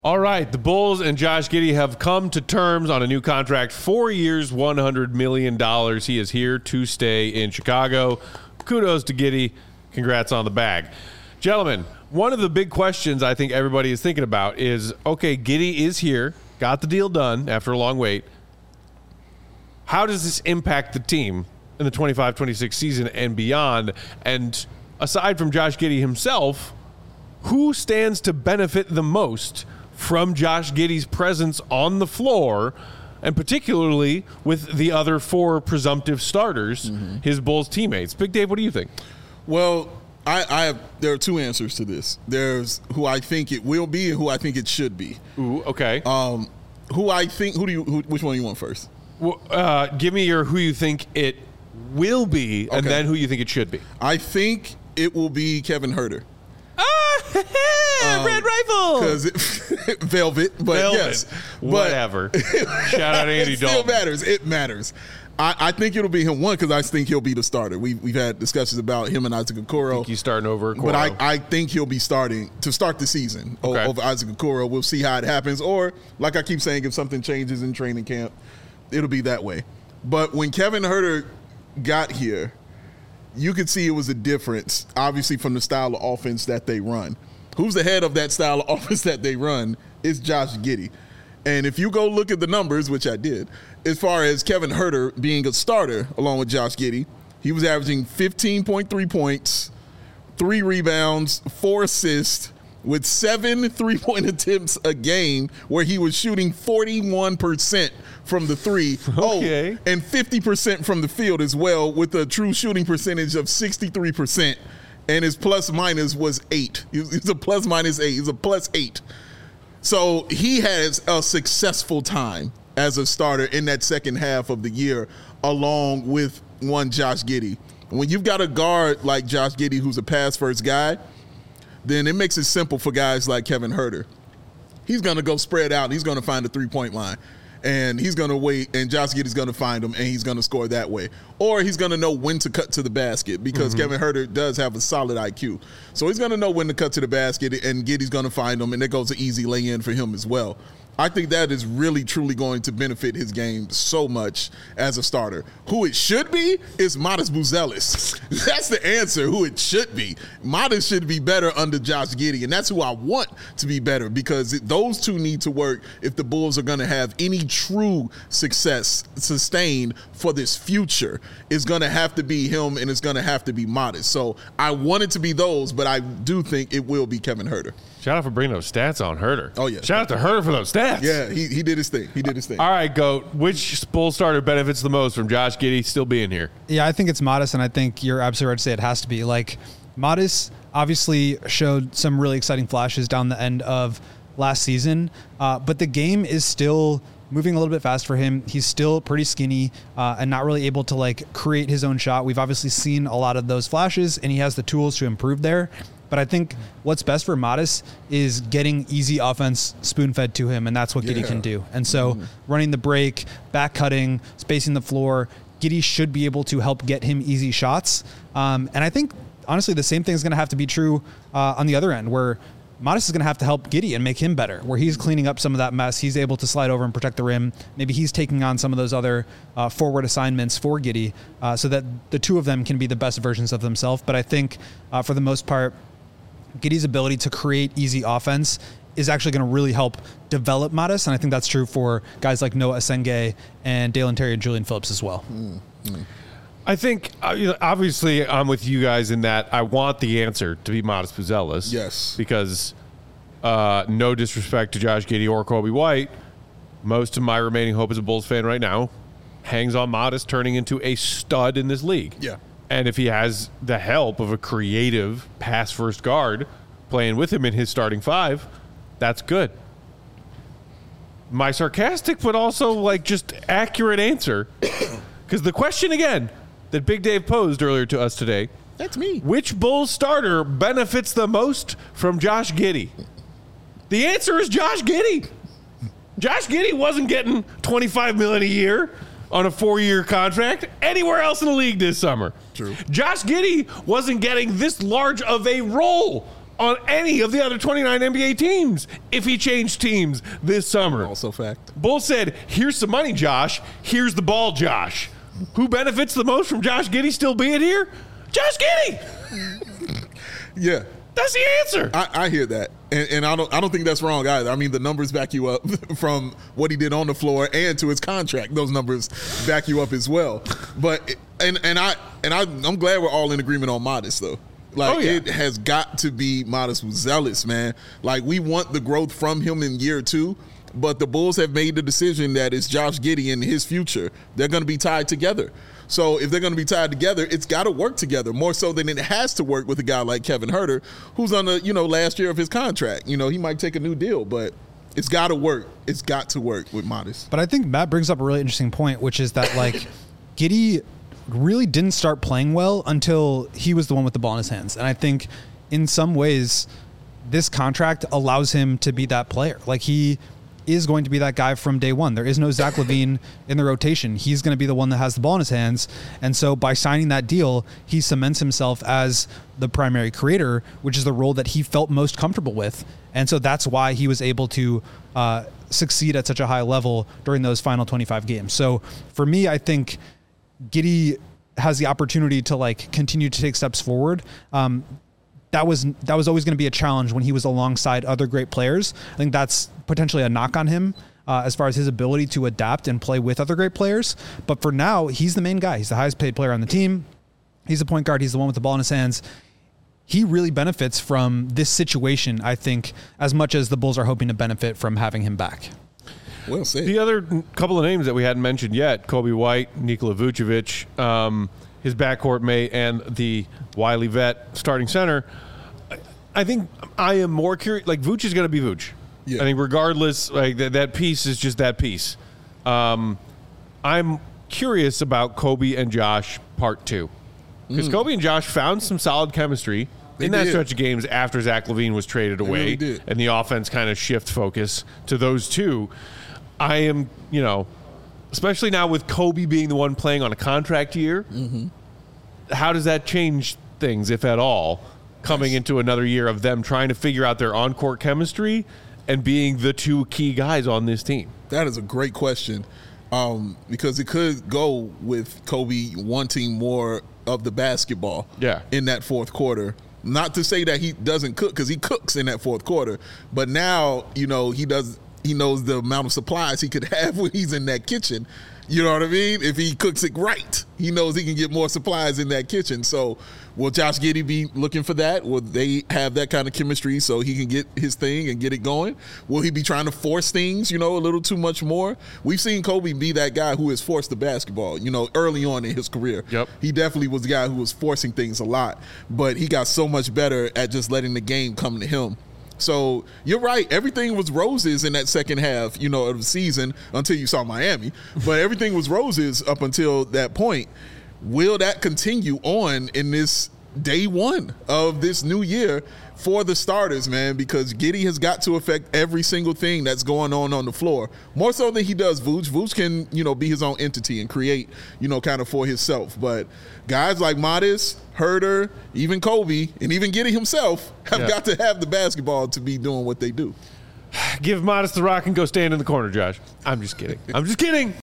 All right, the Bulls and Josh Giddey have come to terms on a new contract, 4 years, $100 million. He is here to stay in Chicago. Kudos to Giddey. Congrats on the bag. Gentlemen, one of the big questions I think everybody is thinking about is, okay, Giddey is here, got the deal done after a long wait. How does this impact the team in the 25-26 season and beyond? And aside from Josh Giddey himself, who stands to benefit the most from Josh Giddey's presence on the floor, and particularly with the other four presumptive starters, his Bulls teammates? Big Dave, what do you think? Well, there are two answers to this. There's who I think it will be and who I think it should be. Ooh, okay. Which one do you want first? Well, give me who you think it will be, and then who you think it should be. I think it will be Kevin Huerter. Red Rifle! Because Velvet, but Velvet. Yes. Whatever. Shout out Andy Dalton. It still matters. It matters. I think it'll be him, one, because I think he'll be the starter. We've had discussions about him and Isaac Okoro. I think he's starting over Okoro. But I think he'll be starting to start the season over Isaac Okoro. We'll see how it happens. Or, like I keep saying, if something changes in training camp, it'll be that way. But when Kevin Huerter got here, you could see it was a difference, obviously, from the style of offense that they run. Who's the head of that style of offense that they run is Josh Giddey. And if you go look at the numbers, which I did, as far as Kevin Huerter being a starter along with Josh Giddey, he was averaging 15.3 points, 3 rebounds, 4 assists, with 7 3-point attempts a game, where he was shooting 41% from the three. Okay. Oh, and 50% from the field as well, with a true shooting percentage of 63%. And his plus minus was 8. He's a plus minus 8. He's a plus 8. So he has a successful time as a starter in that second half of the year, along with one Josh Giddey. When you've got a guard like Josh Giddey, who's a pass-first guy, then it makes it simple for guys like Kevin Huerter. He's going to go spread out, and he's going to find the three-point line. And he's going to wait, and Josh Giddey's going to find him, and he's going to score that way. Or he's going to know when to cut to the basket, because Kevin Huerter does have a solid IQ. So he's going to know when to cut to the basket, and Giddey's going to find him, and there goes an easy lay-in for him as well. I think that is really, truly going to benefit his game so much as a starter. Who it should be is Matas Buzelis. That's the answer, who it should be. Matas should be better under Josh Giddey, and that's who I want to be better, because those two need to work if the Bulls are going to have any true success sustained for this future. It's going to have to be him, and it's going to have to be Matas. So I want it to be those, but I do think it will be Kevin Huerter. Shout out for bringing those stats on Huerter. Oh, yeah. Shout out to Huerter for those stats. Yeah, he did his thing. He did his thing. All right, Goat. Which Bull starter benefits the most from Josh Giddey still being here? Yeah, I think it's Matas, and I think you're absolutely right to say it has to be. Like, Matas obviously showed some really exciting flashes down the end of last season, but the game is still moving a little bit fast for him. He's still pretty skinny and not really able to, like, create his own shot. We've obviously seen a lot of those flashes, and he has the tools to improve there. But I think what's best for Matas is getting easy offense spoon-fed to him, and that's what Giddey can do. And so running the break, back cutting, spacing the floor, Giddey should be able to help get him easy shots. And I think, honestly, the same thing is going to have to be true on the other end, where Matas is going to have to help Giddey and make him better, where he's cleaning up some of that mess. He's able to slide over and protect the rim. Maybe he's taking on some of those other forward assignments for Giddey so that the two of them can be the best versions of themselves. But I think, for the most part, Giddey's ability to create easy offense is actually going to really help develop Matas, and I think that's true for guys like Noah Asenge and Dalen Terry and Julian Phillips as well. I think, obviously, I'm with you guys in that I want the answer to be Matas Buzelis. Yes. Because no disrespect to Josh Giddey or Kobe White, most of my remaining hope as a Bulls fan right now hangs on Matas turning into a stud in this league. Yeah. And if he has the help of a creative pass-first guard playing with him in his starting five, that's good. My sarcastic but also, like, just accurate answer, because the question, again, that Big Dave posed earlier to us today, that's me. Which Bulls starter benefits the most from Josh Giddey? The answer is Josh Giddey. Josh Giddey wasn't getting $25 million a year on a 4-year contract anywhere else in the league this summer. True. Josh Giddey wasn't getting this large of a role on any of the other 29 NBA teams if he changed teams this summer. Also fact. Bulls said, here's some money, Josh. Here's the ball, Josh. Who benefits the most from Josh Giddey still being here? Josh Giddey. Yeah. That's the answer. I hear that, and I don't think that's wrong either. I mean, the numbers back you up from what he did on the floor and to his contract. Those numbers back you up as well. But I'm glad we're all in agreement on Modest though. Like It has got to be Modest was zealous, man. Like we want the growth from him in year 2. But the Bulls have made the decision that it's Josh Giddey and his future. They're going to be tied together. So if they're going to be tied together, it's got to work together more so than it has to work with a guy like Kevin Huerter, who's on the last year of his contract. He might take a new deal, but it's got to work. It's got to work with Modest. But I think Matt brings up a really interesting point, which is that like Giddey really didn't start playing well until he was the one with the ball in his hands, and I think in some ways this contract allows him to be that player. Like he is going to be that guy from day one. There is no Zach LaVine in the rotation. He's going to be the one that has the ball in his hands. And so by signing that deal, he cements himself as the primary creator, which is the role that he felt most comfortable with. And so that's why he was able to succeed at such a high level during those final 25 games. So for me, I think Giddey has the opportunity to like continue to take steps forward. That was always going to be a challenge when he was alongside other great players. I think that's potentially a knock on him as far as his ability to adapt and play with other great players. But for now, he's the main guy. He's the highest paid player on the team. He's the point guard. He's the one with the ball in his hands. He really benefits from this situation, I think, as much as the Bulls are hoping to benefit from having him back. Well said. The other couple of names that we hadn't mentioned yet, Kobe White, Nikola Vucevic, his backcourt mate, and the wily vet starting center. I think I am more curious. Like, Vooch is going to be Vooch. Yeah. I think regardless, like that piece is just that piece. I'm curious about Kobe and Josh part 2. Because Kobe and Josh found some solid chemistry in that stretch of games after Zach LaVine was traded away. Really and the offense kind of shift focus to those two. I am, especially now with Kobe being the one playing on a contract year, how does that change things, if at all, coming into another year of them trying to figure out their on-court chemistry and being the two key guys on this team? That is a great question because it could go with Kobe wanting more of the basketball in that fourth quarter. Not to say that he doesn't cook, because he cooks in that fourth quarter, but now, he knows the amount of supplies he could have when he's in that kitchen. You know what I mean? If he cooks it right, he knows he can get more supplies in that kitchen. So will Josh Giddey be looking for that? Will they have that kind of chemistry so he can get his thing and get it going? Will he be trying to force things, a little too much more? We've seen Kobe be that guy who has forced the basketball, early on in his career. Yep. He definitely was the guy who was forcing things a lot, but he got so much better at just letting the game come to him. So you're right. Everything was roses in that second half, of the season until you saw Miami. But everything was roses up until that point. Will that continue on in this day one of this new year for the starters, man? Because Giddey has got to affect every single thing that's going on the floor. More so than he does Vooch. Vooch can, be his own entity and create, kind of for himself. But guys like Modest, Huerter, even Kobe, and even Giddey himself have got to have the basketball to be doing what they do. Give Modest the rock and go stand in the corner, Josh. I'm just kidding.